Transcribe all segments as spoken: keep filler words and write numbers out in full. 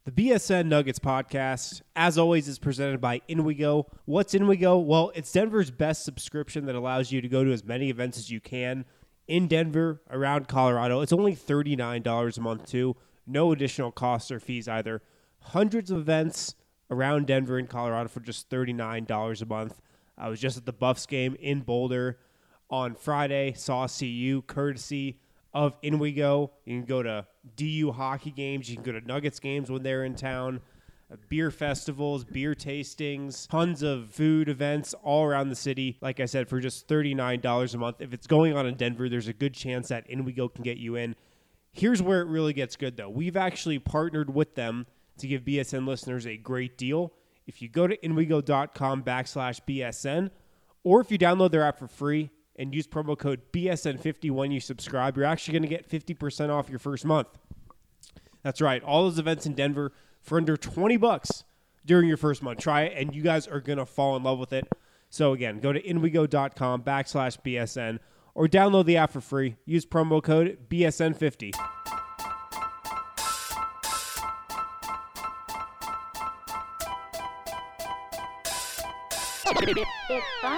The B S N Nuggets podcast, as always, is presented by InWeGo. What's InWeGo? Well, it's Denver's best subscription that allows you to go to as many events as you can in Denver, around Colorado. It's only thirty-nine dollars a month, too. No additional costs or fees either. Hundreds of events around Denver and Colorado for just thirty-nine dollars a month. I was just at the Buffs game in Boulder on Friday. Saw C U, courtesy of InWeGo. You can go to D U hockey games. You can go to Nuggets games when they're in town. Uh, beer festivals, beer tastings, tons of food events all around the city. Like I said, for just thirty-nine dollars a month. If it's going on in Denver, there's a good chance that InWeGo can get you in. Here's where it really gets good, though. We've actually partnered with them to give B S N listeners a great deal. If you go to InWeGo.com backslash BSN, or if you download their app for free and use promo code B S N fifty when you subscribe, you're actually going to get fifty percent off your first month. That's right. All those events in Denver for under twenty bucks during your first month. Try it, and you guys are going to fall in love with it. So, again, go to InWeGo.com backslash BSN or download the app for free. Use promo code B S N fifty. It's fun.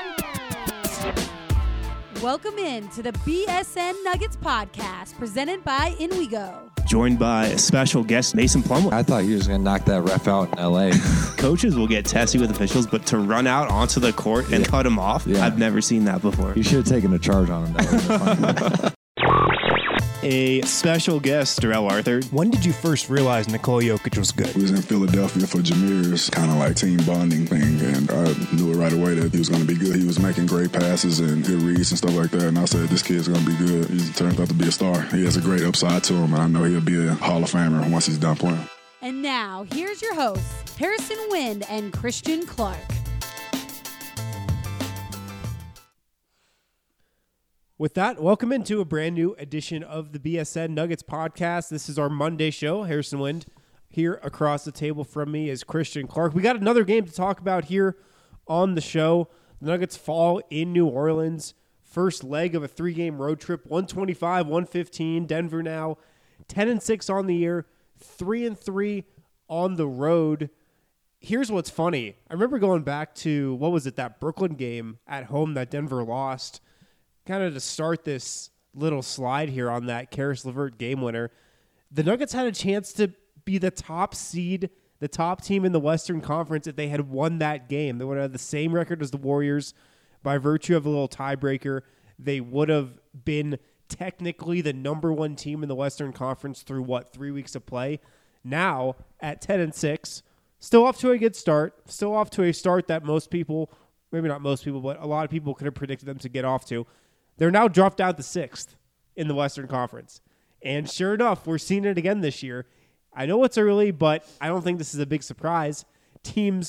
Welcome in to the B S N Nuggets podcast presented by InWeGo. Joined by a special guest, Mason Plumlee. I thought you was going to knock that ref out in L A. Coaches will get testy with officials, but to run out onto the court and yeah. cut him off, yeah. I've never seen that before. You should have taken a charge on him. That A special guest, Darrell Arthur. When did you first realize Nikola Jokic was good? We was in Philadelphia for Jameer's kind of like team bonding thing, and I knew it right away that he was going to be good. He was making great passes and good reads and stuff like that, and I said, this kid's going to be good. He turned out to be a star. He has a great upside to him, and I know he'll be a Hall of Famer once he's done playing. And now, here's your hosts, Harrison Wind and Christian Clark. With that, welcome into a brand new edition of the B S N Nuggets podcast. This is our Monday show. Harrison Wind here across the table from me is Christian Clark. We got another game to talk about here on the show. The Nuggets fall in New Orleans. First leg of a three-game road trip, one twenty-five, one fifteen. Denver now ten and six on the year, three and three on the road. Here's what's funny. I remember going back to, what was it, that Brooklyn game at home that Denver lost. Kind of to start this little slide here on that Karis LeVert game winner, the Nuggets had a chance to be the top seed, the top team in the Western Conference if they had won that game. They would have the same record as the Warriors by virtue of a little tiebreaker. They would have been technically the number one team in the Western Conference through, what, three weeks of play. Now, at ten and six, still off to a good start, still off to a start that most people, maybe not most people, but a lot of people could have predicted them to get off to. They're now dropped down to sixth in the Western Conference. And sure enough, we're seeing it again this year. I know it's early, but I don't think this is a big surprise. Teams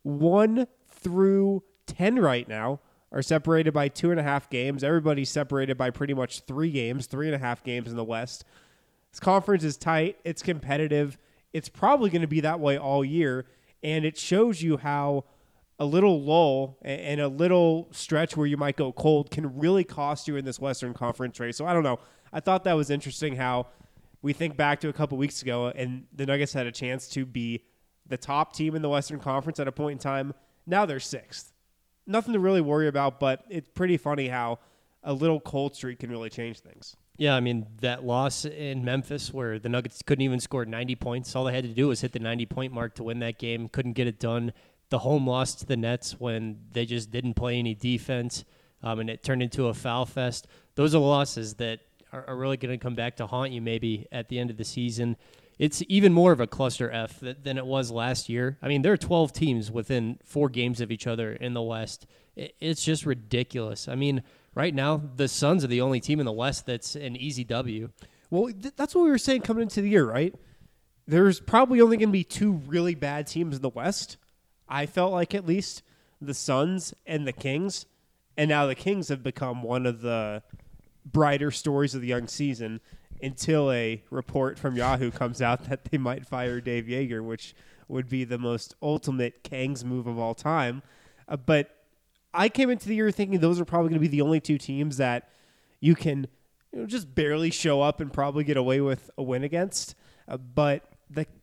one through ten right now are separated by two and a half games. Everybody's separated by pretty much three games, three and a half games in the West. This conference is tight. It's competitive. It's probably going to be that way all year. And it shows you how a little lull and a little stretch where you might go cold can really cost you in this Western Conference race. So I don't know. I thought that was interesting how we think back to a couple weeks ago and the Nuggets had a chance to be the top team in the Western Conference at a point in time. Now they're sixth. Nothing to really worry about, but it's pretty funny how a little cold streak can really change things. Yeah, I mean, that loss in Memphis where the Nuggets couldn't even score ninety points. All they had to do was hit the ninety-point mark to win that game. Couldn't get it done. The home loss to the Nets when they just didn't play any defense, um, and it turned into a foul fest. Those are losses that are, are really going to come back to haunt you maybe at the end of the season. It's even more of a cluster F th- than it was last year. I mean, there are twelve teams within four games of each other in the West. It, it's just ridiculous. I mean, right now, the Suns are the only team in the West that's an easy W. Well, th- that's what we were saying coming into the year, right? There's probably only going to be two really bad teams in the West. I felt like at least the Suns and the Kings, and now the Kings have become one of the brighter stories of the young season until a report from Yahoo comes out that they might fire Dave Yeager, which would be the most ultimate Kangs move of all time. Uh, but I came into the year thinking those are probably going to be the only two teams that you can you know, just barely show up and probably get away with a win against. Uh, but the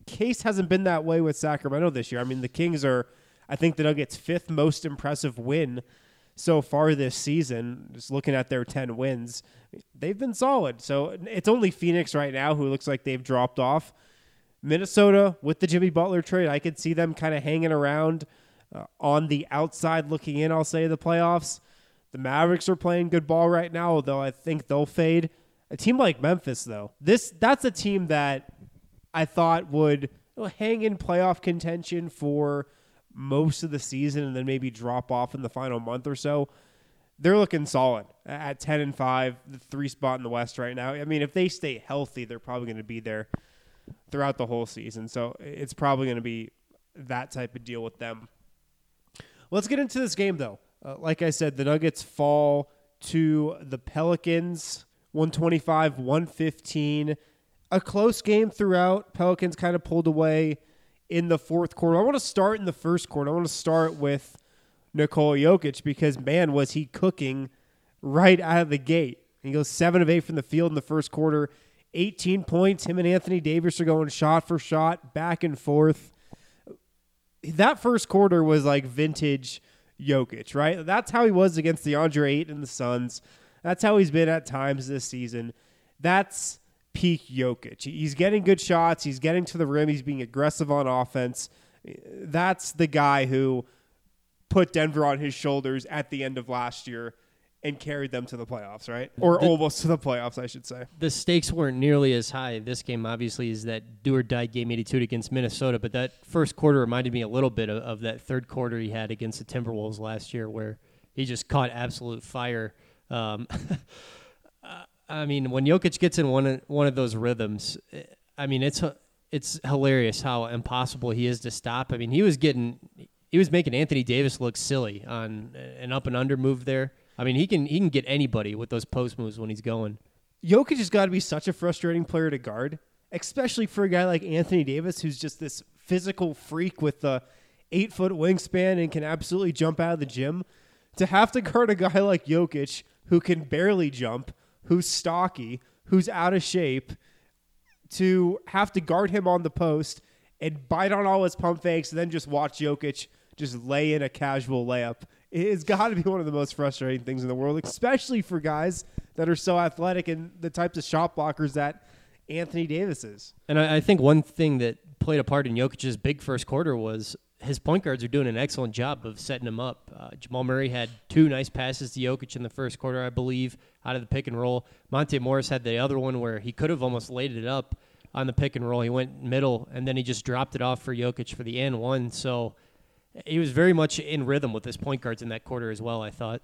case hasn't been that way with Sacramento this year. I mean, the Kings are, I think, the Nuggets' fifth most impressive win so far this season. Just looking at their ten wins, they've been solid. So it's only Phoenix right now who looks like they've dropped off. Minnesota, with the Jimmy Butler trade, I could see them kind of hanging around uh, on the outside looking in, I'll say, the playoffs. The Mavericks are playing good ball right now, although I think they'll fade. A team like Memphis, though, this that's a team that I thought would you know, hang in playoff contention for most of the season and then maybe drop off in the final month or so. They're looking solid at ten and five, the three spot in the West right now. I mean, if they stay healthy, they're probably going to be there throughout the whole season. So it's probably going to be that type of deal with them. Let's get into this game, though. Uh, like I said, the Nuggets fall to the Pelicans, one twenty-five, one fifteen. A close game throughout. Pelicans kind of pulled away in the fourth quarter. I want to start in the first quarter. I want to start with Nikola Jokic because, man, was he cooking right out of the gate. He goes seven of eight from the field in the first quarter, eighteen points. Him and Anthony Davis are going shot for shot, back and forth. That first quarter was like vintage Jokic, right? That's how he was against DeAndre Ayton and the Suns. That's how he's been at times this season. That's peak Jokic. He's getting good shots. He's getting to the rim. He's being aggressive on offense. That's the guy who put Denver on his shoulders at the end of last year and carried them to the playoffs, right? Or the, almost to the playoffs, I should say. The stakes weren't nearly as high. This game, obviously, is that do-or-die game eighty-two against Minnesota, but that first quarter reminded me a little bit of, of that third quarter he had against the Timberwolves last year where he just caught absolute fire. Um, I mean, when Jokic gets in one of, one of those rhythms, I mean, it's it's hilarious how impossible he is to stop. I mean, he was getting he was making Anthony Davis look silly on an up and under move there. I mean, he can he can get anybody with those post moves when he's going. Jokic has got to be such a frustrating player to guard, especially for a guy like Anthony Davis, who's just this physical freak with the eight-foot wingspan and can absolutely jump out of the gym. To have to guard a guy like Jokic who can barely jump, who's stocky, who's out of shape, to have to guard him on the post and bite on all his pump fakes and then just watch Jokic just lay in a casual layup. It's got to be one of the most frustrating things in the world, especially for guys that are so athletic and the types of shot blockers that Anthony Davis is. And I, I think one thing that played a part in Jokic's big first quarter was his point guards are doing an excellent job of setting him up. Uh, Jamal Murray had two nice passes to Jokic in the first quarter, I believe, out of the pick and roll. Monte Morris had the other one where he could have almost laid it up on the pick and roll. He went middle, and then he just dropped it off for Jokic for the and one. So he was very much in rhythm with his point guards in that quarter as well, I thought.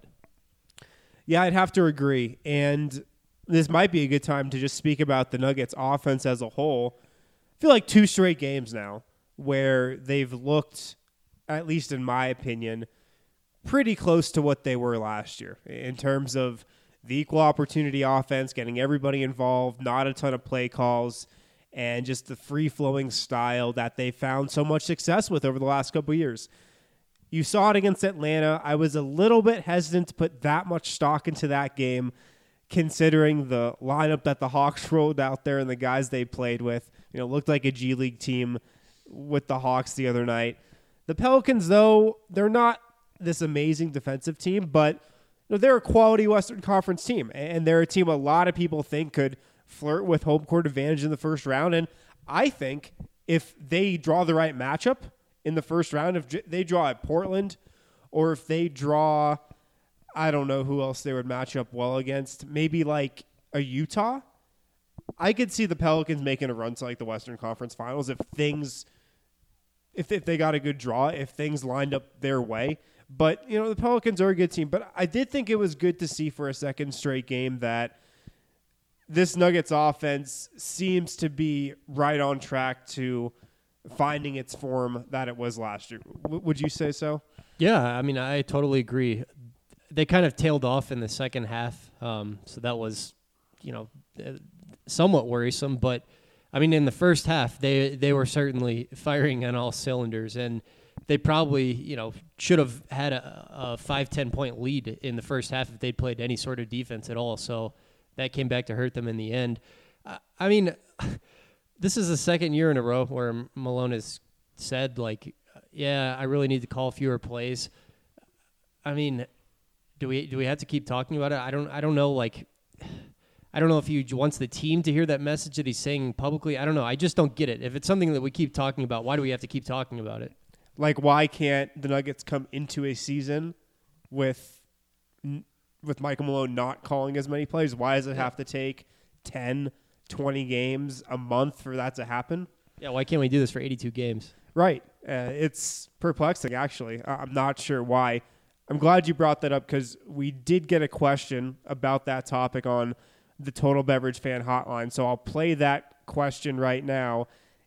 Yeah, I'd have to agree. And this might be a good time to just speak about the Nuggets offense as a whole. I feel like two straight games now where they've looked, at least in my opinion, pretty close to what they were last year in terms of the equal opportunity offense, getting everybody involved, not a ton of play calls, and just the free-flowing style that they found so much success with over the last couple of years. You saw it against Atlanta. I was a little bit hesitant to put that much stock into that game, considering the lineup that the Hawks rolled out there and the guys they played with. You know, looked like a G League team with the Hawks the other night. The Pelicans, though, they're not this amazing defensive team, but you know, they're a quality Western Conference team, and they're a team a lot of people think could flirt with home court advantage in the first round. And I think if they draw the right matchup in the first round, if they draw at Portland, or if they draw, I don't know who else they would match up well against, maybe like a Utah, I could see the Pelicans making a run to like the Western Conference Finals if things, if, if they got a good draw, if things lined up their way. But, you know, the Pelicans are a good team. But I did think it was good to see for a second straight game that this Nuggets offense seems to be right on track to finding its form that it was last year. W- would you say so? Yeah, I mean, I totally agree. They kind of tailed off in the second half, um, so that was, you know, somewhat worrisome. But, I mean, in the first half, they they were certainly firing on all cylinders, and they probably, you know, should have had a, a five, ten point lead in the first half if they'd played any sort of defense at all. So that came back to hurt them in the end. Uh, I mean, this is the second year in a row where Malone has said, like, yeah, I really need to call fewer plays. I mean, do we do we have to keep talking about it? I don't I don't know. Like, I don't know if he wants the team to hear that message that he's saying publicly. I don't know. I just don't get it. If it's something that we keep talking about, why do we have to keep talking about it? Like, why can't the Nuggets come into a season with with Michael Malone not calling as many plays? Why does it have to take ten, twenty games a month for that to happen? Yeah, why can't we do this for eighty-two games? Right. Uh, it's perplexing, actually. I- I'm not sure why. I'm glad you brought that up because we did get a question about that topic on the Total Beverage Fan Hotline. So I'll play that question right now,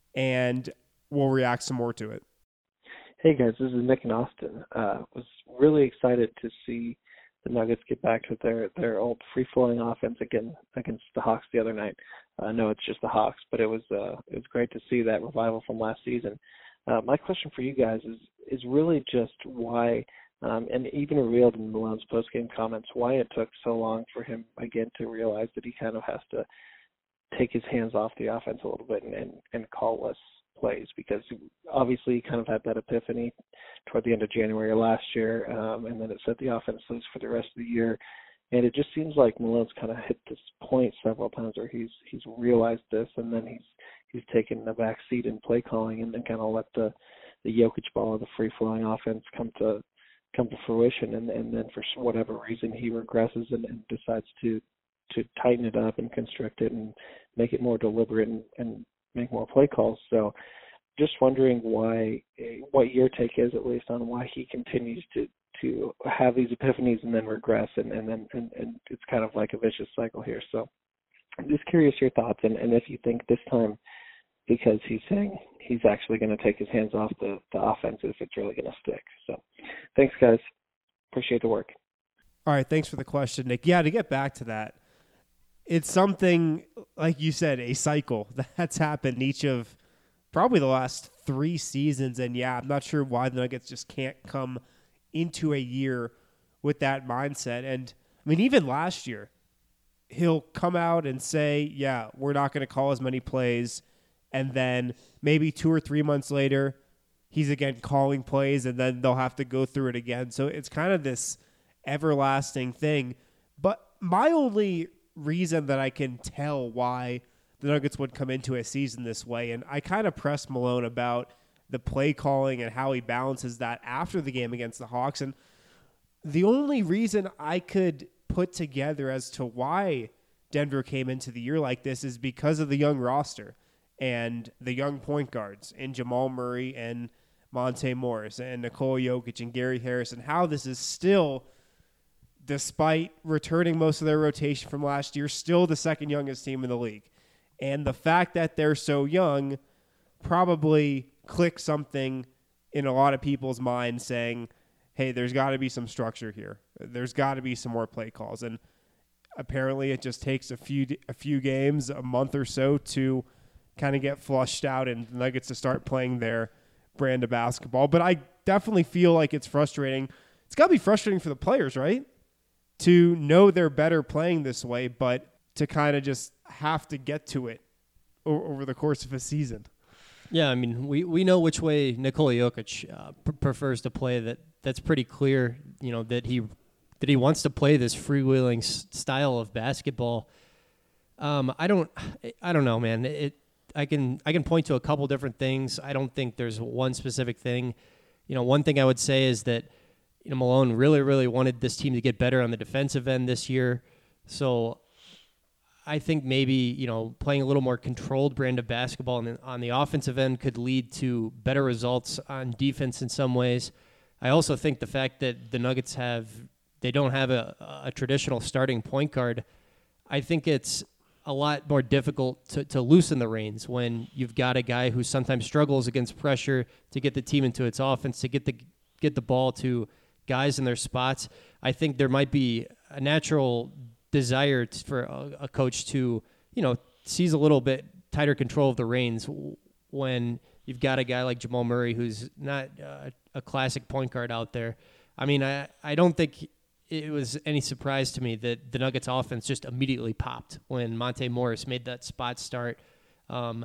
and we'll react some more to it. Hey, guys. This is Nick in Austin. Uh, was really excited to see the Nuggets get back to their, their old free-flowing offense again against the Hawks the other night. I uh, know it's just the Hawks, but it was uh, it was great to see that revival from last season. Uh, my question for you guys is is really just why, um, and even revealed in Malone's post-game comments, why it took so long for him, again, to realize that he kind of has to take his hands off the offense a little bit and, and, and call less plays, because obviously he kind of had that epiphany toward the end of January last year, um, and then it set the offense loose for the rest of the year. And it just seems like Malone's kind of hit this point several times where he's he's realized this, and then he's he's taken the back seat in play calling, and then kind of let the the Jokic ball, the free flowing offense, come to come to fruition, and, and then for whatever reason he regresses and, and decides to to tighten it up and constrict it and make it more deliberate and, and make more play calls. So just wondering why, what your take is at least on why he continues to to have these epiphanies and then regress, and, and then and, and it's kind of like a vicious cycle here. So I'm just curious your thoughts, and, and if you think this time, because he's saying he's actually going to take his hands off the, the offense, if it's really going to stick. So thanks, guys. Appreciate the work. All right, thanks for the question, Nick. Yeah, to get back to that, it's something, like you said, a cycle that's happened each of probably the last three seasons. And, yeah, I'm not sure why the Nuggets just can't come into a year with that mindset. And, I mean, even last year, he'll come out and say, yeah, we're not going to call as many plays. And then maybe two or three months later, he's again calling plays, and then they'll have to go through it again. So it's kind of this everlasting thing. But my only reason that I can tell why the Nuggets would come into a season this way, and I kind of pressed Malone about the play calling and how he balances that after the game against the Hawks. And the only reason I could put together as to why Denver came into the year like this is because of the young roster and the young point guards in Jamal Murray and Monte Morris and Nikola Jokic and Gary Harris, and how this is still, despite returning most of their rotation from last year, still the second youngest team in the league. And the fact that they're so young probably clicked something in a lot of people's minds saying, hey, there's got to be some structure here. There's got to be some more play calls. And apparently it just takes a few a few games, a month or so, to kind of get flushed out and the Nuggets to start playing their brand of basketball. But I definitely feel like it's frustrating. It's got to be frustrating for the players, right? To know they're better playing this way, but to kind of just have to get to it o- over the course of a season. Yeah, I mean, we, we know which way Nikola Jokic uh, pr- prefers to play. That that's pretty clear. You know that he that he wants to play this freewheeling s- style of basketball. Um, I don't I don't know, man. It I can I can point to a couple different things. I don't think there's one specific thing. You know, one thing I would say is that you know Malone really really wanted this team to get better on the defensive end this year. So I think maybe, you know, playing a little more controlled brand of basketball on the, on the offensive end could lead to better results on defense in some ways. I also think the fact that the Nuggets have, they don't have a, a traditional starting point guard, I think it's a lot more difficult to, to loosen the reins when you've got a guy who sometimes struggles against pressure to get the team into its offense, to get the get the ball to guys in their spots. I think there might be a natural desire t- for a, a coach to, you know, seize a little bit tighter control of the reins w- when you've got a guy like Jamal Murray who's not uh, a classic point guard out there. I mean, I, I don't think it was any surprise to me that the Nuggets offense just immediately popped when Monte Morris made that spot start. Um,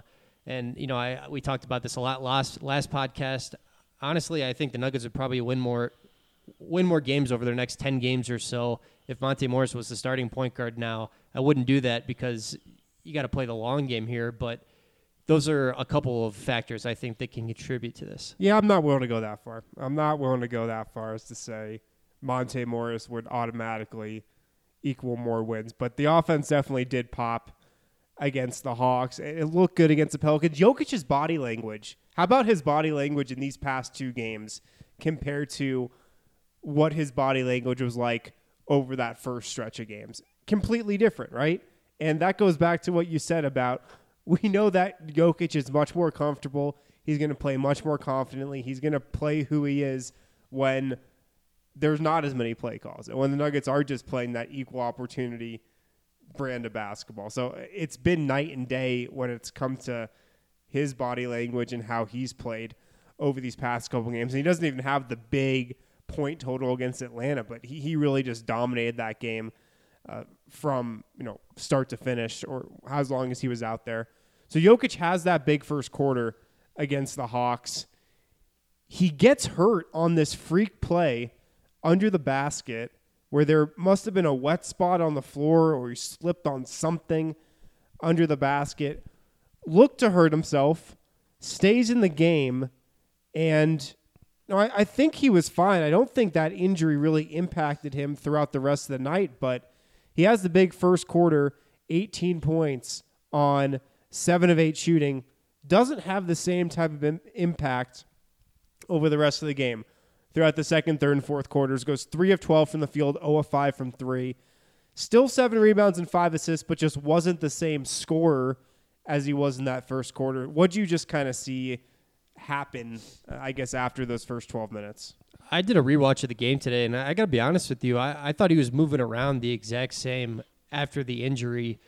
And, you know, I we talked about this a lot last last podcast. Honestly, I think the Nuggets would probably win more win more games over their next ten games or so if Monte Morris was the starting point guard now. I wouldn't do that because you got to play the long game here, but those are a couple of factors I think that can contribute to this. Yeah, I'm not willing to go that far. I'm not willing to go that far as to say Monte Morris would automatically equal more wins. But the offense definitely did pop against the Hawks. It looked good against the Pelicans. Jokic's body language. How about his body language in these past two games compared to what his body language was like over that first stretch of games? Completely different, right? And that goes back to what you said about we know that Jokic is much more comfortable. He's going to play much more confidently. He's going to play who he is when there's not as many play calls. And when the Nuggets are just playing that equal opportunity brand of basketball. So it's been night and day when it's come to his body language and how he's played over these past couple games. And he doesn't even have the big point total against Atlanta, but he, he really just dominated that game uh, from, you know, start to finish, or as long as he was out there. So Jokic has that big first quarter against the Hawks. He gets hurt on this freak play under the basket where there must have been a wet spot on the floor or he slipped on something under the basket, looked to hurt himself, stays in the game, and no, I, I think he was fine. I don't think that injury really impacted him throughout the rest of the night, but he has the big first quarter, eighteen points on seven of eight shooting, doesn't have the same type of im- impact over the rest of the game. Throughout the second, third, and fourth quarters, goes three of twelve from the field, zero of five from three. Still seven rebounds and five assists, but just wasn't the same scorer as he was in that first quarter. What'd you just kind of see happen, uh, I guess, after those first twelve minutes? I did a rewatch of the game today, and I, I got to be honest with you. I, I thought he was moving around the exact same after the injury.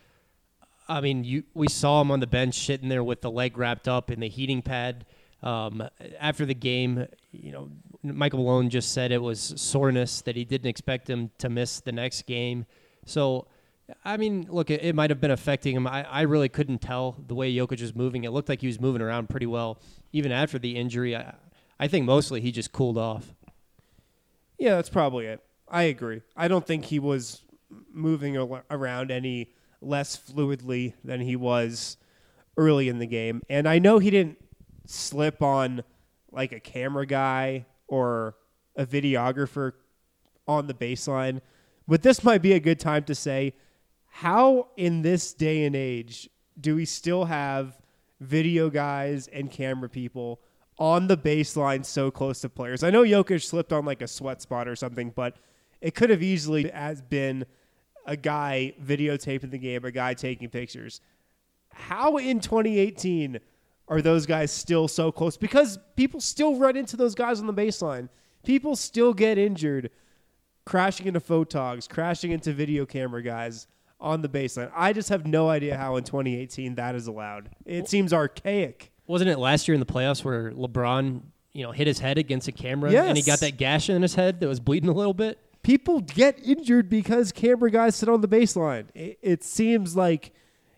I mean, you we saw him on the bench sitting there with the leg wrapped up in the heating pad. Um, after the game, you know, Michael Malone just said it was soreness, that he didn't expect him to miss the next game. So, I mean, look, it, it might have been affecting him. I, I really couldn't tell the way Jokic was moving. It looked like he was moving around pretty well, even after the injury. I, I think mostly he just cooled off. Yeah, that's probably it. I agree. I don't think he was moving al- around any less fluidly than he was early in the game. And I know he didn't slip on like a camera guy or a videographer on the baseline, but this might be a good time to say, how in this day and age do we still have video guys and camera people on the baseline so close to players? I know Jokic slipped on like a sweat spot or something, but it could have easily has been a guy videotaping the game, a guy taking pictures. How in twenty eighteen are those guys still so close? Because people still run into those guys on the baseline. People still get injured crashing into photogs, crashing into video camera guys on the baseline. I just have no idea how in twenty eighteen that is allowed. It seems archaic. Wasn't it last year in the playoffs where LeBron, you know, hit his head against a camera Yes. and he got that gash in his head that was bleeding a little bit? People get injured because camera guys sit on the baseline. It, it seems like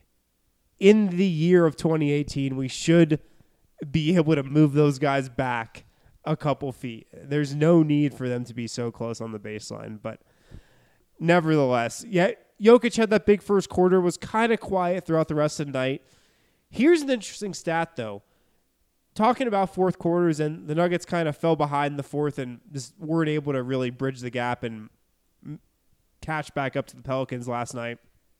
in the year of twenty eighteen, we should be able to move those guys back a couple feet. There's no need for them to be so close on the baseline. But nevertheless, yeah, Jokic had that big first quarter, was kind of quiet throughout the rest of the night. Here's an interesting stat, though. Talking about fourth quarters, and the Nuggets kind of fell behind in the fourth and just weren't able to really bridge the gap and catch back up to the Pelicans last night.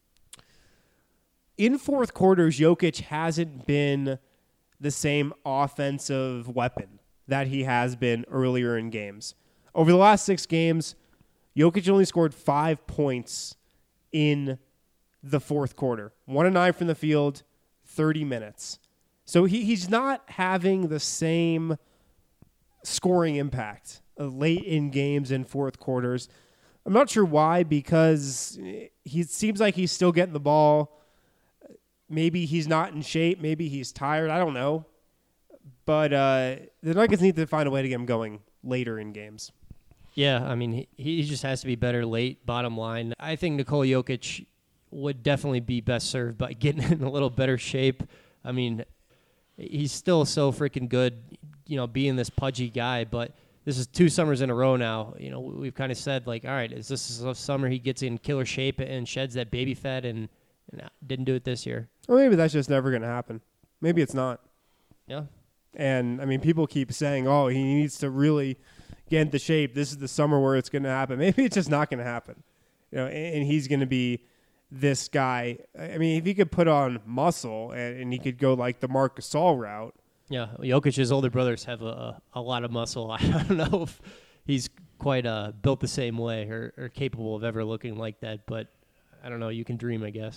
In fourth quarters, Jokic hasn't been the same offensive weapon that he has been earlier in games. Over the last six games, Jokic only scored five points in the fourth quarter. One and nine from the field, thirty minutes. So he, he's not having the same scoring impact late in games in fourth quarters. I'm not sure why, because he seems like he's still getting the ball. Maybe he's not in shape. Maybe he's tired. I don't know. But uh, the Nuggets need to find a way to get him going later in games. Yeah, I mean, he, he just has to be better late, bottom line. I think Nikola Jokic would definitely be best served by getting in a little better shape. I mean, he's still so freaking good, you know, being this pudgy guy. But this is two summers in a row now. You know, we've kind of said, like, all right, is this a summer he gets in killer shape and sheds that baby fat, and, and didn't do it this year? Or maybe that's just never going to happen. Maybe it's not. Yeah. And, I mean, people keep saying, oh, he needs to really get into shape. This is the summer where it's going to happen. Maybe it's just not going to happen. You know, and, and he's going to be this guy. I mean, if he could put on muscle and, and he could go like the Marc Gasol route. Yeah, Jokic's older brothers have a, a lot of muscle. I don't know if he's quite uh, built the same way or, or capable of ever looking like that, but I don't know. You can dream, I guess.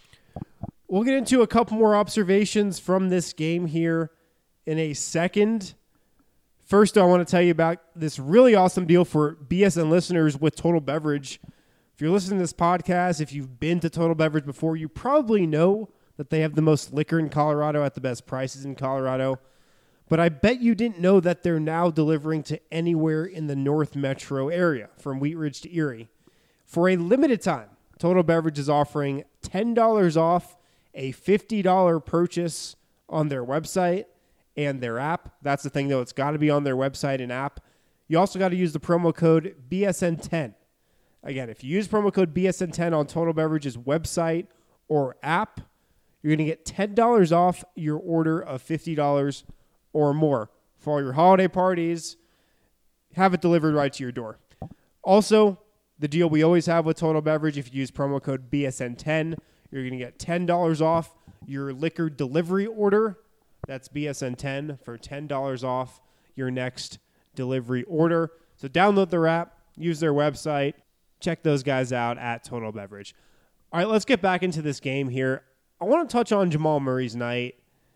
We'll get into a couple more observations from this game here in a second. First, I want to tell you about this really awesome deal for B S N listeners with Total Beverage. If you're listening to this podcast, if you've been to Total Beverage before, you probably know that they have the most liquor in Colorado at the best prices in Colorado. But I bet you didn't know that they're now delivering to anywhere in the North Metro area, from Wheat Ridge to Erie. For a limited time, Total Beverage is offering ten dollars off a fifty dollars purchase on their website and their app. That's the thing, though. It's got to be on their website and app. You also got to use the promo code B S N ten. Again, if you use promo code B S N ten on Total Beverage's website or app, you're going to get ten dollars off your order of fifty dollars or more for all your holiday parties. Have it delivered right to your door. Also, the deal we always have with Total Beverage, if you use promo code B S N ten, you're going to get ten dollars off your liquor delivery order. That's B S N ten for ten dollars off your next delivery order. So download their app, use their website, check those guys out at Total Beverage. All right, let's get back into this game here. I want to touch on Jamal Murray's night.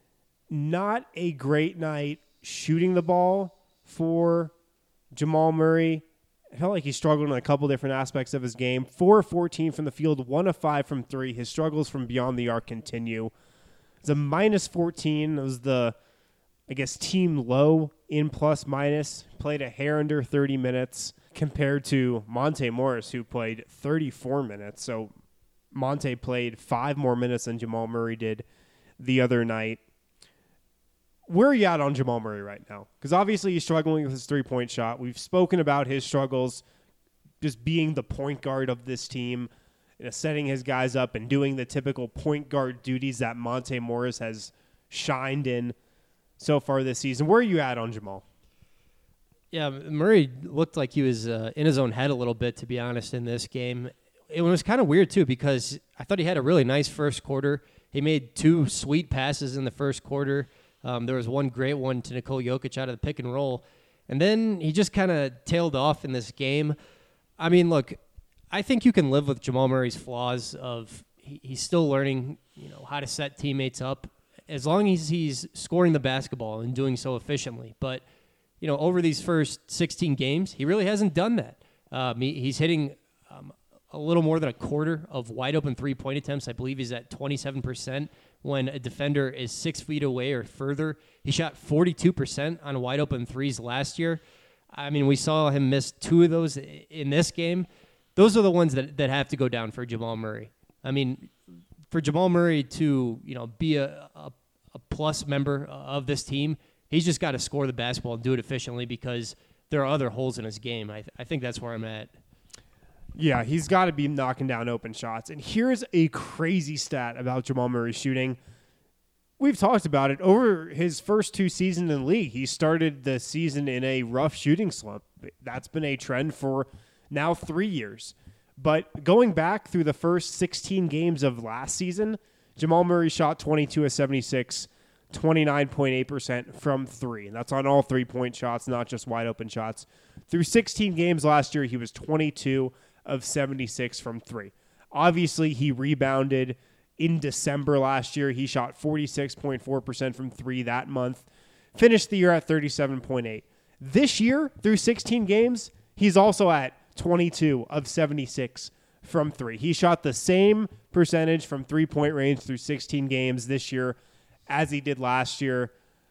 Not a great night shooting the ball for Jamal Murray. I felt like he struggled in a couple different aspects of his game. four of fourteen from the field, one of five from three. His struggles from beyond the arc continue. It's a minus fourteen. It was the, I guess, team low in plus minus. Played a hair under thirty minutes compared to Monte Morris, who played thirty-four minutes. So Monte played five more minutes than Jamal Murray did the other night. Where are you at on Jamal Murray right now? Because obviously he's struggling with his three-point shot. We've spoken about his struggles just being the point guard of this team, you know, setting his guys up and doing the typical point guard duties that Monte Morris has shined in so far this season. Where are you at on Jamal? Yeah, Murray looked like he was uh, in his own head a little bit, to be honest, in this game. It was kind of weird, too, because I thought he had a really nice first quarter. He made two sweet passes in the first quarter. Um, there was one great one to Nikola Jokic out of the pick and roll. And then he just kind of tailed off in this game. I mean, look, I think you can live with Jamal Murray's flaws of he, he's still learning, you know, how to set teammates up as long as he's scoring the basketball and doing so efficiently. But, you know, over these first sixteen games, he really hasn't done that. Um, he, he's hitting um, a little more than a quarter of wide open three-point attempts. I believe he's at twenty-seven percent when a defender is six feet away or further. He shot forty-two percent on wide open threes last year. I mean, we saw him miss two of those in this game. Those are the ones that, that have to go down for Jamal Murray. I mean, for Jamal Murray to, you know, be a, a, a plus member of this team, he's just got to score the basketball and do it efficiently because there are other holes in his game. I, th- I think that's where I'm at. Yeah, he's got to be knocking down open shots. And here's a crazy stat about Jamal Murray's shooting. We've talked about it. Over his first two seasons in the league, he started the season in a rough shooting slump. That's been a trend for now three years. But going back through the first sixteen games of last season, Jamal Murray shot twenty-two of seventy-six, twenty-nine point eight percent from three. And that's on all three-point shots, not just wide-open shots. Through sixteen games last year, he was twenty-two of seventy-six from three. Obviously, he rebounded in December last year. He shot forty-six point four percent from three that month. Finished the year at thirty-seven point eight. This year, through sixteen games, he's also at twenty-two of seventy-six from three. He shot the same percentage from three-point range through sixteen games this year as he did last year.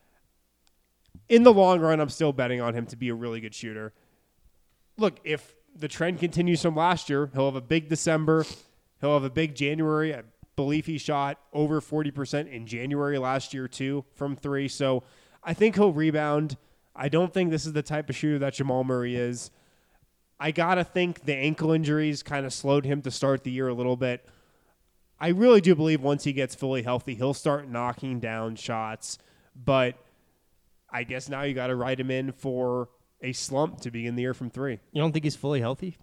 In the long run, I'm still betting on him to be a really good shooter. Look, if the trend continues from last year, he'll have a big December. He'll have a big January. I believe he shot over forty percent in January last year too from three. So I think he'll rebound. I don't think this is the type of shooter that Jamal Murray is. I got to think the ankle injuries kind of slowed him to start the year a little bit. I really do believe once he gets fully healthy, he'll start knocking down shots. But I guess now you got to write him in for a slump to begin the year from three. You don't think he's fully healthy?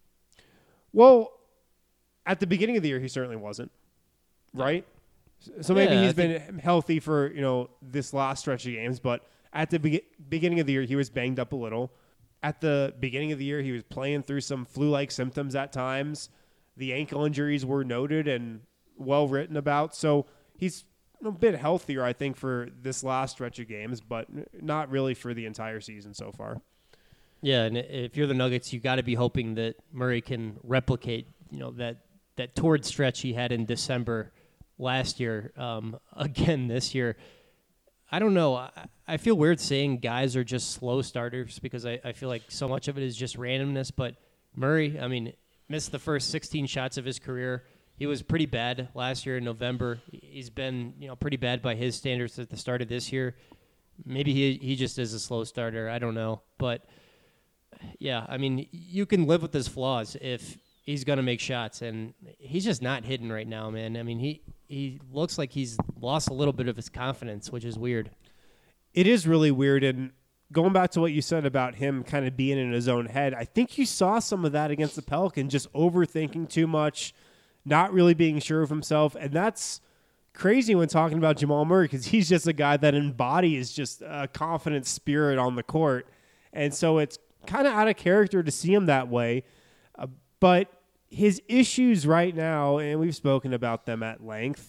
Well, at the beginning of the year, he certainly wasn't, right? So maybe Yeah, he's I been think- healthy for, you know, this last stretch of games, but at the be- beginning of the year, he was banged up a little. At the beginning of the year, he was playing through some flu-like symptoms at times. The ankle injuries were noted and well written about. So he's a bit healthier, I think, for this last stretch of games, but not really for the entire season so far. Yeah, and if you're the Nuggets, you got to be hoping that Murray can replicate, you know, that that torrid stretch he had in December last year um, again this year. I don't know. I, I feel weird saying guys are just slow starters because I, I feel like so much of it is just randomness. But Murray, I mean, missed the first sixteen shots of his career. He was pretty bad last year in November. He's been, you know, pretty bad by his standards at the start of this year. Maybe he he just is a slow starter. I don't know, but. Yeah, I mean, you can live with his flaws if he's going to make shots, and he's just not hitting right now, man. I mean, he, he looks like he's lost a little bit of his confidence, which is weird. It is really weird, and going back to what you said about him kind of being in his own head, I think you saw some of that against the Pelicans, just overthinking too much, not really being sure of himself, and that's crazy when talking about Jamal Murray because he's just a guy that embodies just a confident spirit on the court, and so it's kind of out of character to see him that way. Uh, but his issues right now, and we've spoken about them at length,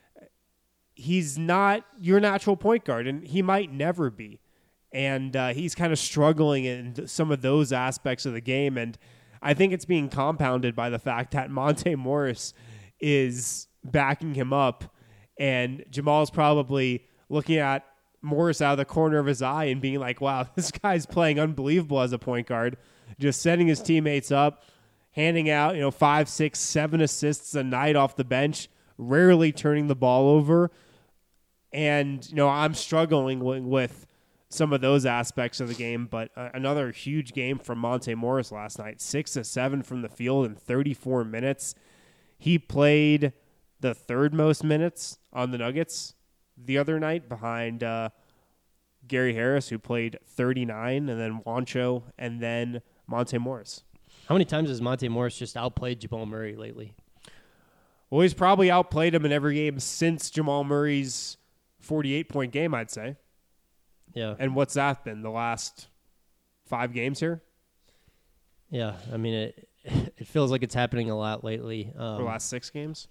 he's not your natural point guard, and he might never be. And uh, he's kind of struggling in some of those aspects of the game. And I think it's being compounded by the fact that Monte Morris is backing him up. And Jamal's probably looking at Morris out of the corner of his eye and being like, wow, this guy's playing unbelievable as a point guard, just setting his teammates up, handing out, you know, five, six, seven assists a night off the bench, rarely turning the ball over. And, you know, I'm struggling with, with some of those aspects of the game, but uh, another huge game from Monte Morris last night, six to seven from the field in thirty-four minutes. He played the third most minutes on the Nuggets the other night behind uh, Gary Harris, who played thirty-nine, and then Juancho, and then Monte Morris. How many times has Monte Morris just outplayed Jamal Murray lately? Well, he's probably outplayed him in every game since Jamal Murray's forty-eight point game, I'd say. Yeah. And what's that been, the last five games here? Yeah, I mean, it it feels like it's happening a lot lately. Um, Or the last six games?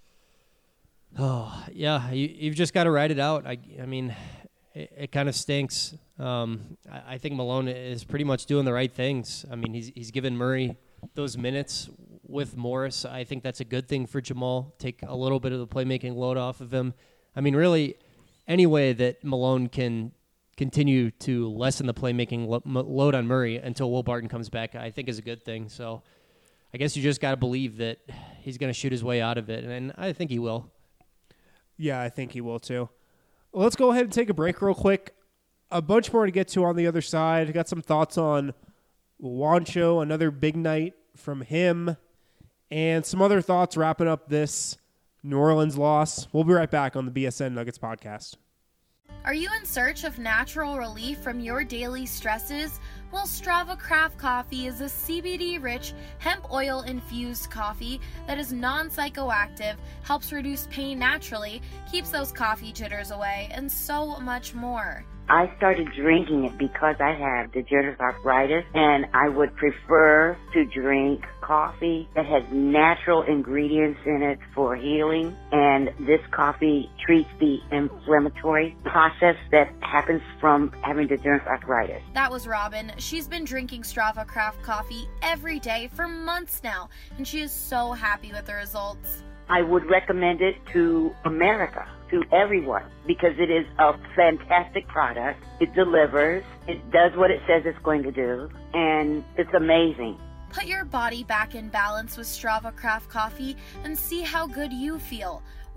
Oh, yeah, you, you've just got to ride it out. I, I mean, it, it kind of stinks. Um, I, I think Malone is pretty much doing the right things. I mean, he's he's given Murray those minutes with Morris. I think that's a good thing for Jamal. Take a little bit of the playmaking load off of him. I mean, really, any way that Malone can continue to lessen the playmaking lo- load on Murray until Will Barton comes back, I think is a good thing. So I guess you just got to believe that he's going to shoot his way out of it, and I think he will. Yeah, I think he will too. Well, let's go ahead and take a break real quick. A bunch more to get to on the other side. Got some thoughts on Juancho, another big night from him, and some other thoughts wrapping up this New Orleans loss. We'll be right back on the B S N Nuggets podcast. Are you in search of natural relief from your daily stresses? Well, Strava Craft Coffee is a C B D-rich, hemp oil-infused coffee that is non-psychoactive, helps reduce pain naturally, keeps those coffee jitters away, and so much more. I started drinking it because I have degenerative arthritis, and I would prefer to drink coffee that has natural ingredients in it for healing, and this coffee treats the inflammatory process that happens from having degenerative arthritis. That was Robin. She's been drinking Strava Craft Coffee every day for months now, and she is so happy with the results. I would recommend it to America, to everyone, because it is a fantastic product. It delivers. It does what it says it's going to do, and it's amazing. Put your body back in balance with Strava Craft Coffee and see how good you feel.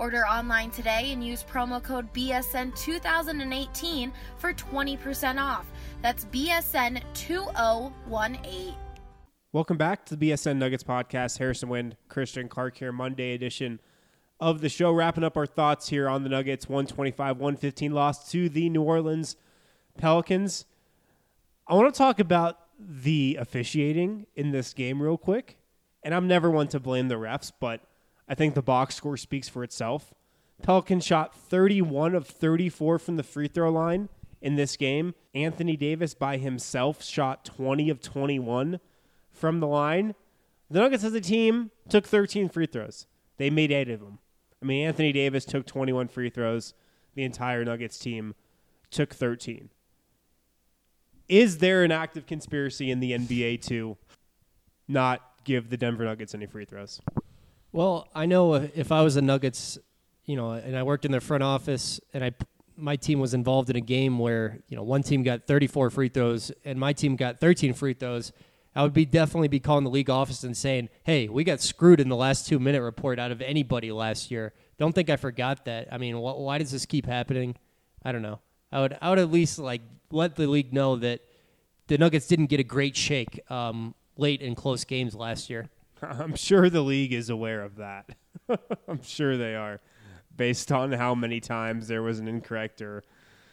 Order online today and use promo code B S N two thousand eighteen for twenty percent off. That's B S N two thousand eighteen. Welcome back to the B S N Nuggets podcast. Harrison Wind, Christian Clark here, Monday edition of the show. Wrapping up our thoughts here on the Nuggets. one twenty-five one fifteen loss to the New Orleans Pelicans. I want to talk about the officiating in this game real quick. And I'm never one to blame the refs, but I think the box score speaks for itself. Pelicans shot thirty-one of thirty-four from the free throw line in this game. Anthony Davis by himself shot twenty of twenty-one from the line. The Nuggets as a team took thirteen free throws. They made eight of them. I mean, Anthony Davis took twenty-one free throws. The entire Nuggets team took thirteen. Is there an active conspiracy in the N B A to not give the Denver Nuggets any free throws? Well, I know if I was the Nuggets, you know, and I worked in their front office, and I my team was involved in a game where, you know, one team got thirty-four free throws and my team got thirteen free throws, I would be definitely be calling the league office and saying, hey, we got screwed in the last two-minute report out of anybody last year. Don't think I forgot that. I mean, wh- why does this keep happening? I don't know. I would I would at least, like, let the league know that the Nuggets didn't get a great shake um, late in close games last year. I'm sure the league is aware of that. I'm sure they are, based on how many times there was an incorrect or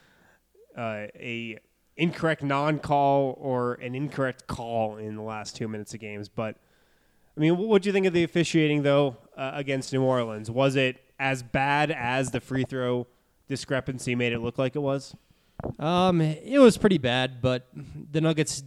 uh, a incorrect non-call or an incorrect call in the last two minutes of games. But, I mean, what do you think of the officiating, though, uh, against New Orleans? Was it as bad as the free throw discrepancy made it look like it was? Um, it was pretty bad, but the Nuggets,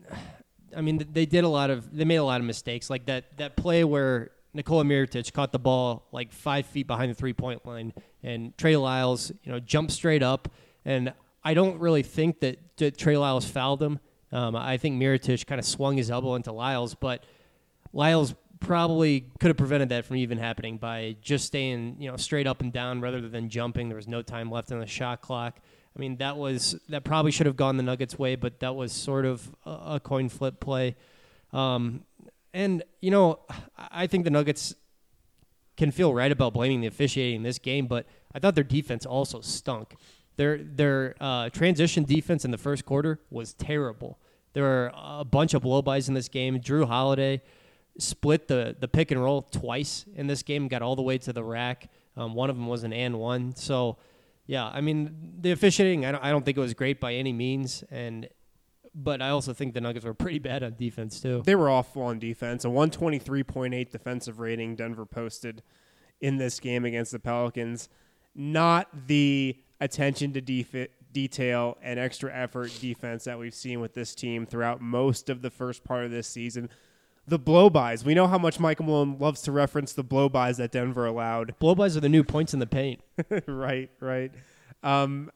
I mean, they did a lot of, they made a lot of mistakes. Like that, that play where Nikola Mirotic caught the ball like five feet behind the three-point line, and Trey Lyles, you know, jumped straight up. And I don't really think that, that Trey Lyles fouled him. Um, I think Mirotic kind of swung his elbow into Lyles, but Lyles probably could have prevented that from even happening by just staying, you know, straight up and down rather than jumping. There was no time left on the shot clock. I mean, that was that probably should have gone the Nuggets' way, but that was sort of a, a coin flip play. Um, and, you know, I think the Nuggets can feel right about blaming the officiating in this game, but I thought their defense also stunk. Their their uh, transition defense in the first quarter was terrible. There were a bunch of blow-bys in this game. Drew Holiday split the, the pick and roll twice in this game, got all the way to the rack. Um, one of them was an and one. So, yeah, I mean, the officiating, I don't, I don't think it was great by any means, and but I also think the Nuggets were pretty bad on defense, too. They were awful on defense. A one twenty-three point eight defensive rating Denver posted in this game against the Pelicans. Not the attention to def- detail and extra effort defense that we've seen with this team throughout most of the first part of this season. The blow-bys. We know how much Michael Malone loves to reference the blow-bys that Denver allowed. Blow-bys are the new points in the paint. right, right. Um,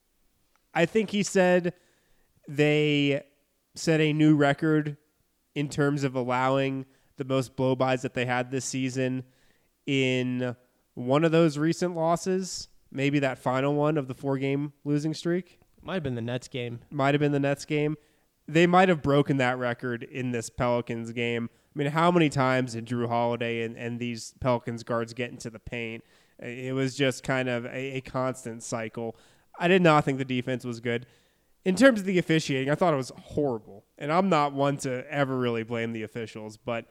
I think he said they set a new record in terms of allowing the most blow-bys that they had this season in one of those recent losses, maybe that final one of the four-game losing streak. Might have been the Nets game. Might have been the Nets game. They might have broken that record in this Pelicans game. I mean, how many times did Drew Holiday and, and these Pelicans guards get into the paint? It was just kind of a, a constant cycle. I did not think the defense was good. In terms of the officiating, I thought it was horrible. And I'm not one to ever really blame the officials, but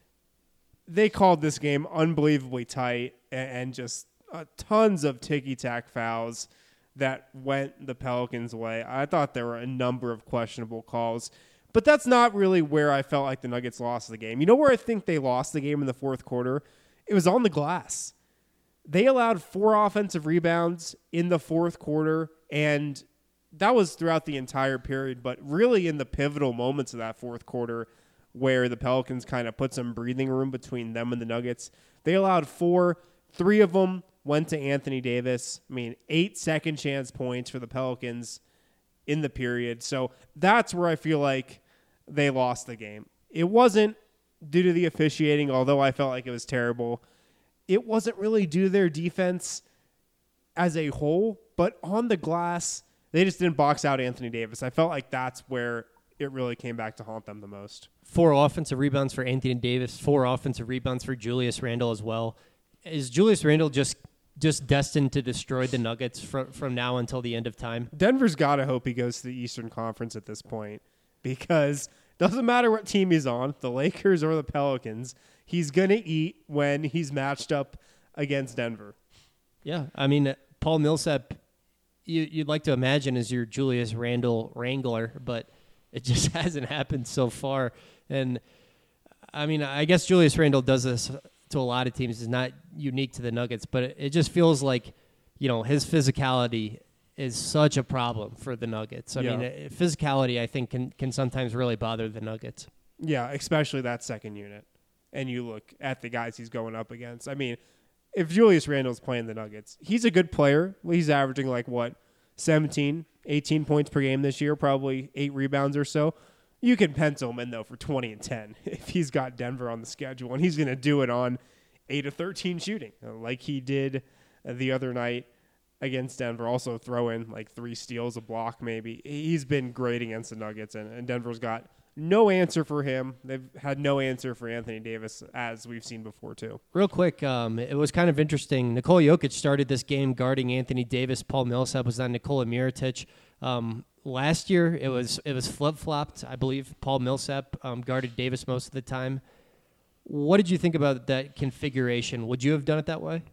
they called this game unbelievably tight and, and just uh, tons of ticky-tack fouls that went the Pelicans' way. I thought there were a number of questionable calls, but that's not really where I felt like the Nuggets lost the game. You know where I think they lost the game in the fourth quarter? It was on the glass. They allowed four offensive rebounds in the fourth quarter, and that was throughout the entire period, but really in the pivotal moments of that fourth quarter where the Pelicans kind of put some breathing room between them and the Nuggets, they allowed four. Three of them went to Anthony Davis. I mean, eight second chance points for the Pelicans in the period. So that's where I feel like they lost the game. It wasn't due to the officiating, although I felt like it was terrible. It wasn't really due to their defense as a whole, but on the glass, they just didn't box out Anthony Davis. I felt like that's where it really came back to haunt them the most. Four offensive rebounds for Anthony Davis, four offensive rebounds for Julius Randle as well. Is Julius Randle just just destined to destroy the Nuggets from from now until the end of time? Denver's got to hope he goes to the Eastern Conference at this point, because it doesn't matter what team he's on, the Lakers or the Pelicans, he's going to eat when he's matched up against Denver. Yeah, I mean, Paul Millsap, you, you'd like to imagine is your Julius Randle wrangler, but it just hasn't happened so far. And, I mean, I guess Julius Randle does this to a lot of teams. It's not unique to the Nuggets, but it, it just feels like, you know, his physicality is such a problem for the Nuggets. I Yeah. mean, uh, physicality, I think, can, can sometimes really bother the Nuggets. Yeah, especially that second unit. And you look at the guys he's going up against. I mean, if Julius Randle's playing the Nuggets, he's a good player. He's averaging like, what, seventeen, eighteen points per game this year, probably eight rebounds or so. You can pencil him in, though, for twenty and ten if he's got Denver on the schedule. And he's going to do it on eight of thirteen shooting, like he did the other night against Denver. Also throw in like three steals, a block maybe. He's been great against the Nuggets, and, and Denver's got no answer for him. They've had no answer for Anthony Davis, as we've seen before, too. Real quick, um, it was kind of interesting. Nikola Jokic started this game guarding Anthony Davis. Paul Millsap was on Nikola Mirotic. Um, last year, it was it was flip-flopped, I believe. Paul Millsap um, guarded Davis most of the time. What did you think about that configuration? Would you have done it that way?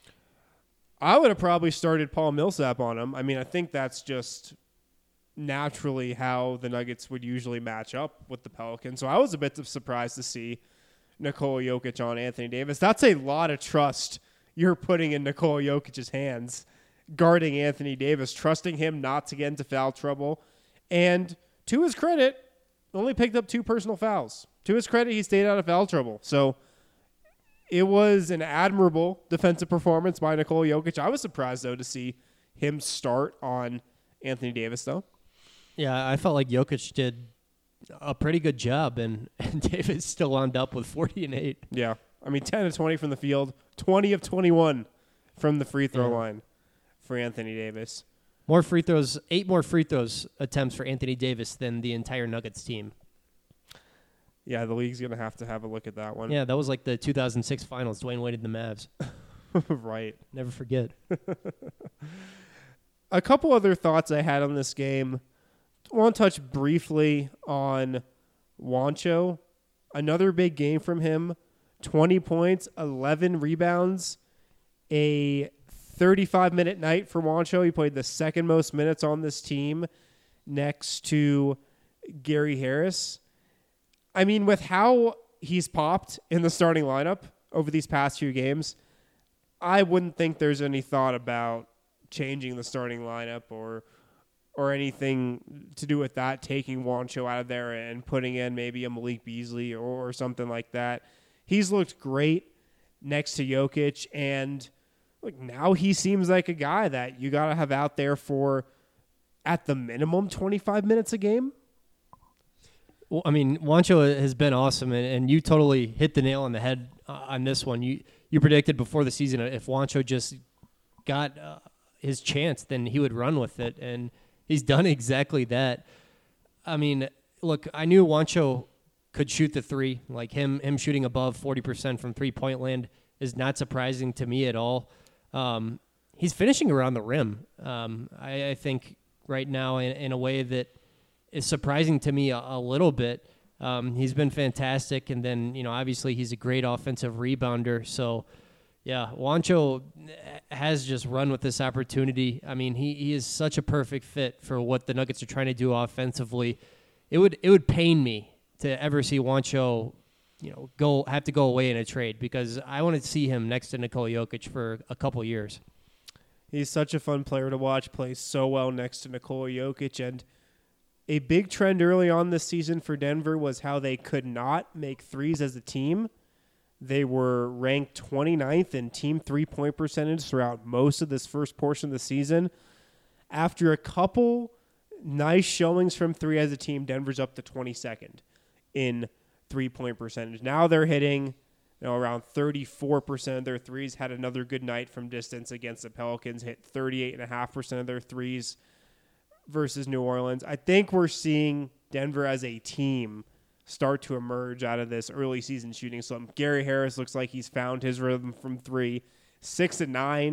I would have probably started Paul Millsap on him. I mean, I think that's just naturally how the Nuggets would usually match up with the Pelicans. So I was a bit surprised to see Nikola Jokic on Anthony Davis. That's a lot of trust you're putting in Nikola Jokic's hands, guarding Anthony Davis, trusting him not to get into foul trouble. And to his credit, only picked up two personal fouls. To his credit, he stayed out of foul trouble. So it was an admirable defensive performance by Nikola Jokic. I was surprised, though, to see him start on Anthony Davis, though. Yeah, I felt like Jokic did a pretty good job, and, and Davis still wound up with forty and eight. Yeah. I mean, ten of twenty from the field, twenty of twenty-one from the free throw Yeah. line for Anthony Davis. More free throws, eight more free throws attempts for Anthony Davis than the entire Nuggets team. Yeah, the league's going to have to have a look at that one. Yeah, that was like the two thousand six finals, Dwayne Wade and the Mavs. Right. Never forget. A couple other thoughts I had on this game. I want to touch briefly on Juancho. Another big game from him. twenty points, eleven rebounds, a thirty-five minute night for Juancho. He played the second most minutes on this team next to Gary Harris. I mean, with how he's popped in the starting lineup over these past few games, I wouldn't think there's any thought about changing the starting lineup or or anything to do with that, taking Juancho out of there and putting in maybe a Malik Beasley or, or something like that. He's looked great next to Jokic, and look, now he seems like a guy that you got to have out there for, at the minimum, twenty-five minutes a game. Well, I mean, Juancho has been awesome, and, and you totally hit the nail on the head uh, on this one. You you predicted before the season if Juancho just got uh, his chance, then he would run with it, and he's done exactly that. I mean, look, I knew Juancho could shoot the three. Like him, him shooting above forty percent from three-point land is not surprising to me at all. Um, he's finishing around the rim, um, I, I think, right now in, in a way that is surprising to me a, a little bit. Um, he's been fantastic, and then, you know, obviously he's a great offensive rebounder. So, yeah, Juancho has just run with this opportunity. I mean, he, he is such a perfect fit for what the Nuggets are trying to do offensively. It would it would pain me to ever see Juancho, you know, go have to go away in a trade, because I want to see him next to Nikola Jokic for a couple years. He's such a fun player to watch, plays so well next to Nikola Jokic, and a big trend early on this season for Denver was how they could not make threes as a team. They were ranked twenty-ninth in team three-point percentage throughout most of this first portion of the season. After a couple nice showings from three as a team, Denver's up to twenty-second in three-point percentage. Now they're hitting, you know, around thirty-four percent of their threes. Had another good night from distance against the Pelicans, hit thirty-eight point five percent of their threes versus New Orleans. I think we're seeing Denver as a team start to emerge out of this early season shooting slump. Gary Harris looks like he's found his rhythm from three. Six and nine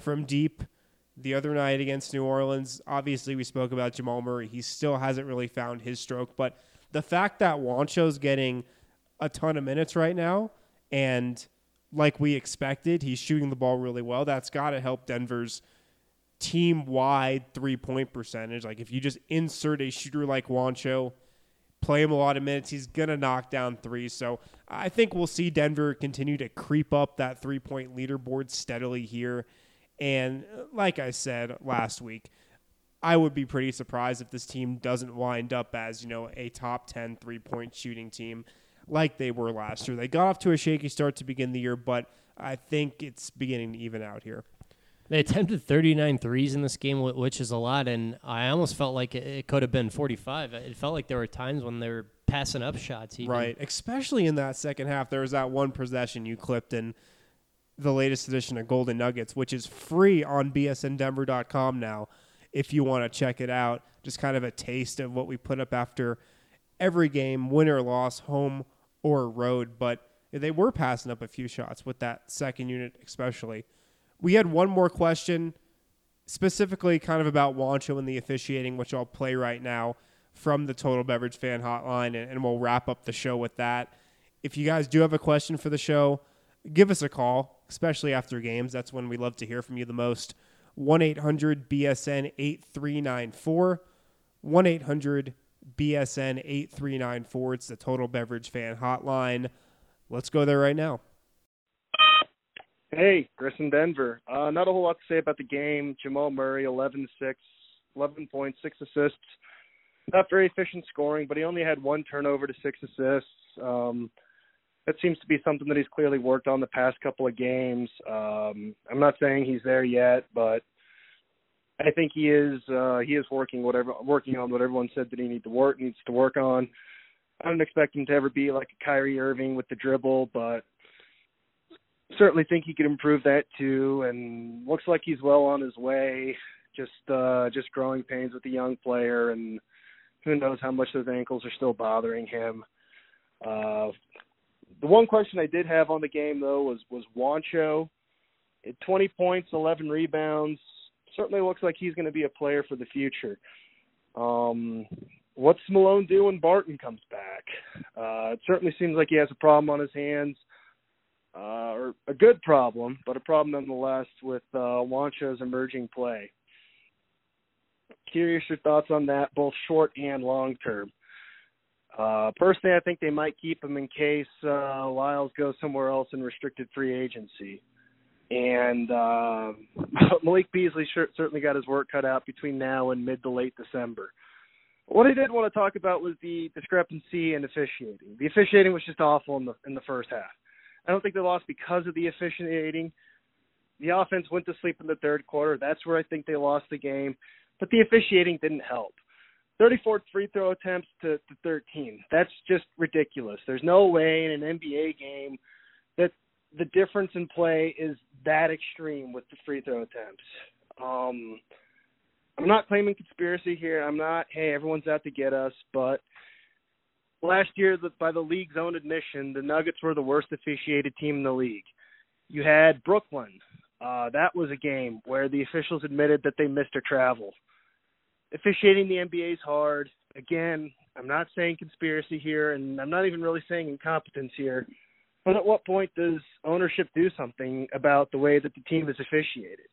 from deep the other night against New Orleans. Obviously, we spoke about Jamal Murray. He still hasn't really found his stroke, but the fact that Juancho's getting a ton of minutes right now, and like we expected, he's shooting the ball really well, that's got to help Denver's team-wide three-point percentage. Like, if you just insert a shooter like Juancho, play him a lot of minutes, he's going to knock down threes. So I think we'll see Denver continue to creep up that three-point leaderboard steadily here. And like I said last week, I would be pretty surprised if this team doesn't wind up as, you know, a top ten three-point shooting team like they were last year. They got off to a shaky start to begin the year, but I think it's beginning to even out here. They attempted thirty-nine threes in this game, which is a lot, and I almost felt like it could have been forty-five. It felt like there were times when they were passing up shots. Even. Right, especially in that second half. There was that one possession you clipped in the latest edition of Golden Nuggets, which is free on B S N Denver dot com now if you want to check it out. Just kind of a taste of what we put up after every game, win or loss, home or road. But they were passing up a few shots with that second unit especially. We had one more question, specifically kind of about Juancho and the officiating, which I'll play right now from the Total Beverage Fan Hotline, and, and we'll wrap up the show with that. If you guys do have a question for the show, give us a call, especially after games. That's when we love to hear from you the most. one eight hundred B S N eight three nine four. one eight hundred B S N eight three nine four. It's the Total Beverage Fan Hotline. Let's go there right now. Hey, Chris in Denver. Uh, not a whole lot to say about the game. Jamal Murray, eleven six, eleven points, six assists. Not very efficient scoring, but he only had one turnover to six assists. Um, that seems to be something that he's clearly worked on the past couple of games. Um, I'm not saying he's there yet, but I think he is. Uh, he is working whatever working on what everyone said that he need to work needs to work on. I don't expect him to ever be like a Kyrie Irving with the dribble, but certainly think he could improve that too, and looks like he's well on his way. Just uh, just growing pains with the young player, and who knows how much those ankles are still bothering him. Uh, the one question I did have on the game, though, was, was Juancho. At twenty points, eleven rebounds, certainly looks like he's going to be a player for the future. Um, what's Malone do when Barton comes back? Uh, it certainly seems like he has a problem on his hands. Uh, or a good problem, but a problem nonetheless with uh, Juancho's emerging play. Curious your thoughts on that, both short and long term. Uh, personally, I think they might keep him in case uh, Lyles goes somewhere else in restricted free agency. And uh, Malik Beasley sure, certainly got his work cut out between now and mid to late December. What I did want to talk about was the discrepancy in officiating. The officiating was just awful in the in the first half. I don't think they lost because of the officiating. The offense went to sleep in the third quarter. That's where I think they lost the game. But the officiating didn't help. thirty-four free throw attempts to, to thirteen. That's just ridiculous. There's no way in an N B A game that the difference in play is that extreme with the free throw attempts. Um, I'm not claiming conspiracy here. I'm not, hey, everyone's out to get us, but last year, by the league's own admission, the Nuggets were the worst officiated team in the league. You had Brooklyn. Uh, that was a game where the officials admitted that they missed their travel. Officiating the N B A is hard. Again, I'm not saying conspiracy here, and I'm not even really saying incompetence here. But at what point does ownership do something about the way that the team is officiated?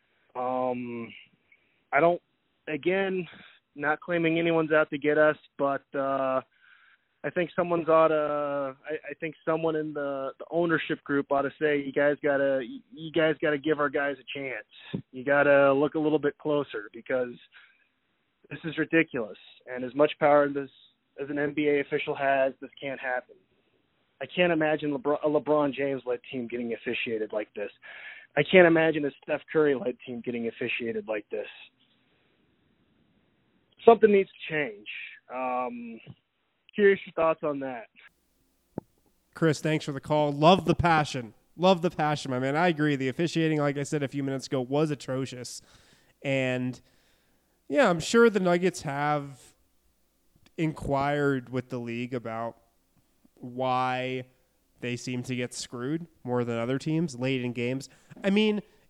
Um, I don't, again, not claiming anyone's out to get us, but uh, I think someone's ought to. I, I think someone in the, the ownership group ought to say, "You guys gotta, you guys gotta give our guys a chance. You gotta look a little bit closer because this is ridiculous. And as much power this as an N B A official has, this can't happen. I can't imagine LeBron, a LeBron James-led team getting officiated like this. I can't imagine a Steph Curry-led team getting officiated like this. Something needs to change." Um, Curious your thoughts on that. Chris, thanks for the call. Love the passion. Love the passion, my man. I agree. The officiating, like I said a few minutes ago, was atrocious. And, yeah, I'm sure the Nuggets have inquired with the league about why they seem to get screwed more than other teams late in games. I mean,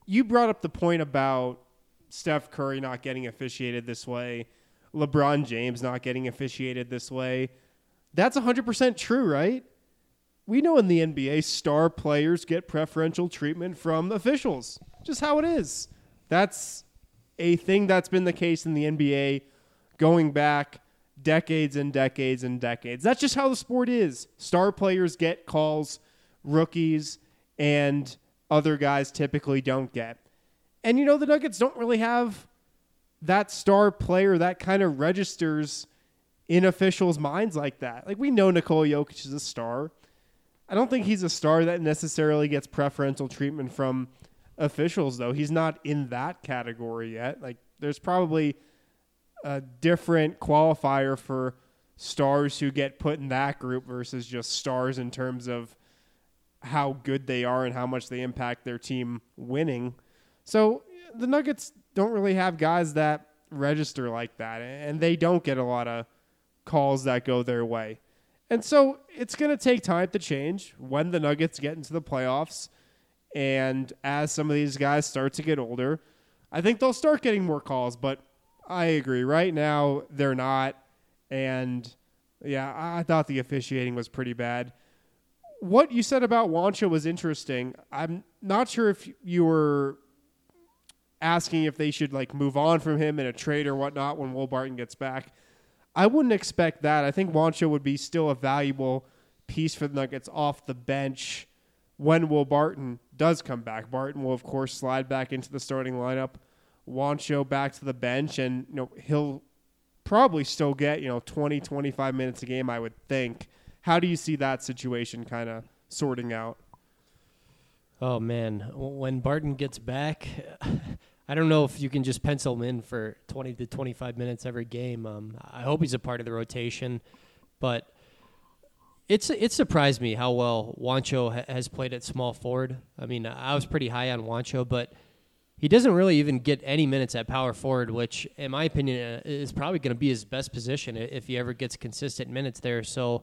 you brought up the point about Steph Curry not getting officiated this way, LeBron James not getting officiated this way. That's one hundred percent true, right? We know in the N B A, star players get preferential treatment from officials. Just how it is. That's a thing that's been the case in the N B A going back decades and decades and decades. That's just how the sport is. Star players get calls, rookies and other guys typically don't get. And, you know, the Nuggets don't really have that star player that kind of registers in officials' minds like that. Like, we know Nikola Jokic is a star. I don't think he's a star that necessarily gets preferential treatment from officials, though. He's not in that category yet. Like, there's probably a different qualifier for stars who get put in that group versus just stars in terms of how good they are and how much they impact their team winning. So the Nuggets don't really have guys that register like that, and they don't get a lot of calls that go their way. And so it's going to take time to change when the Nuggets get into the playoffs. And as some of these guys start to get older, I think they'll start getting more calls. But I agree. Right now, they're not. And, yeah, I thought the officiating was pretty bad. What you said about Juancho was interesting. I'm not sure if you were asking if they should, like, move on from him in a trade or whatnot when Will Barton gets back. I wouldn't expect that. I think Juancho would be still a valuable piece for the Nuggets off the bench when Will Barton does come back. Barton will, of course, slide back into the starting lineup. Juancho back to the bench, and you know he'll probably still get you know twenty, twenty-five minutes a game, I would think. How do you see that situation kind of sorting out? Oh, man. When Barton gets back, I don't know if you can just pencil him in for twenty to twenty-five minutes every game. Um, I hope he's a part of the rotation, but it's it surprised me how well Juancho ha- has played at small forward. I mean, I was pretty high on Juancho, but he doesn't really even get any minutes at power forward, which, in my opinion, is probably going to be his best position if he ever gets consistent minutes there. So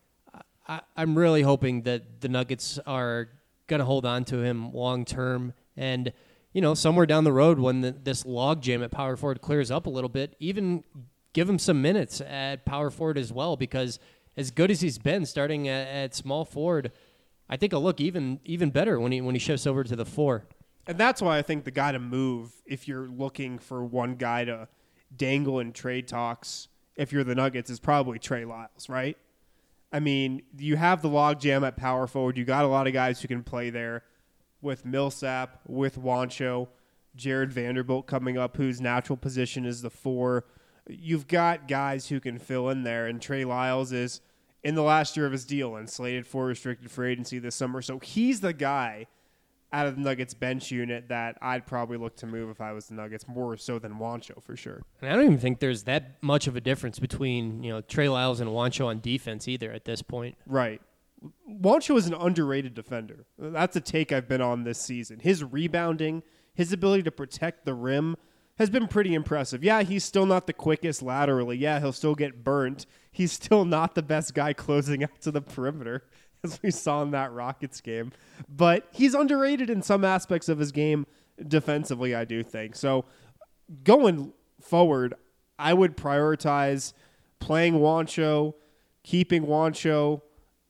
I, I'm really hoping that the Nuggets are going to hold on to him long term, and you know, somewhere down the road when the, this log jam at power forward clears up a little bit, even give him some minutes at power forward as well, because as good as he's been starting at, at small forward, I think he'll look even even better when he when he shifts over to the four. And that's why I think the guy to move, if you're looking for one guy to dangle in trade talks, if you're the Nuggets, is probably Trey Lyles, right? I mean, you have the log jam at power forward. You got a lot of guys who can play there. With Millsap, with Juancho, Jared Vanderbilt coming up, whose natural position is the four. You've got guys who can fill in there, and Trey Lyles is in the last year of his deal and slated for restricted free agency this summer. So he's the guy out of the Nuggets bench unit that I'd probably look to move if I was the Nuggets, more so than Juancho for sure. And I don't even think there's that much of a difference between you know Trey Lyles and Juancho on defense either at this point. Right. Juancho is an underrated defender. That's a take I've been on this season. His rebounding, his ability to protect the rim has been pretty impressive. Yeah, he's still not the quickest laterally. Yeah, he'll still get burnt. He's still not the best guy closing out to the perimeter, as we saw in that Rockets game. But he's underrated in some aspects of his game defensively, I do think. So going forward, I would prioritize playing Juancho, keeping Juancho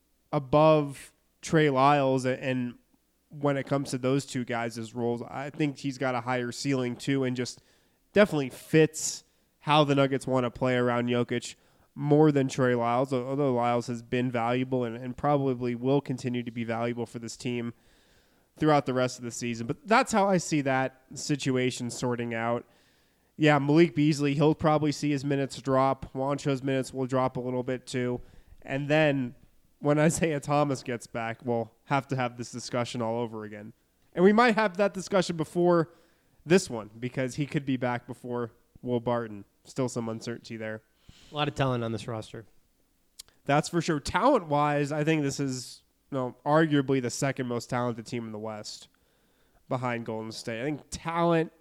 above Trey Lyles, and when it comes to those two guys' roles, I think he's got a higher ceiling too, and just definitely fits how the Nuggets want to play around Jokic more than Trey Lyles, although Lyles has been valuable and, and probably will continue to be valuable for this team throughout the rest of the season. But that's how I see that situation sorting out. Yeah, Malik Beasley, he'll probably see his minutes drop. Juancho's minutes will drop a little bit too. And then when Isaiah Thomas gets back, we'll have to have this discussion all over again. And we might have that discussion before this one because he could be back before Will Barton. Still some uncertainty there. A lot of talent on this roster. That's for sure. Talent-wise, I think this is you know, arguably the second most talented team in the West behind Golden State. I think talent,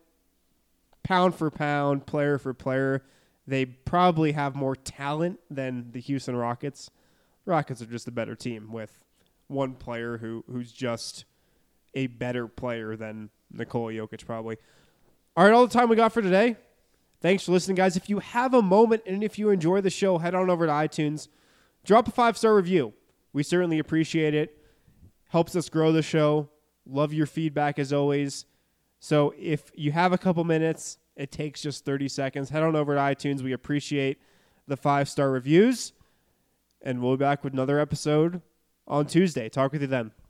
pound for pound, player for player, they probably have more talent than the Houston Rockets. Rockets are just a better team with one player who who's just a better player than Nikola Jokic probably. All right, all the time we got for today. Thanks for listening, guys. If you have a moment and if you enjoy the show, head on over to iTunes. Drop a five-star review. We certainly appreciate it. Helps us grow the show. Love your feedback as always. So if you have a couple minutes, it takes just thirty seconds. Head on over to iTunes. We appreciate the five-star reviews. And we'll be back with another episode on Tuesday. Talk with you then.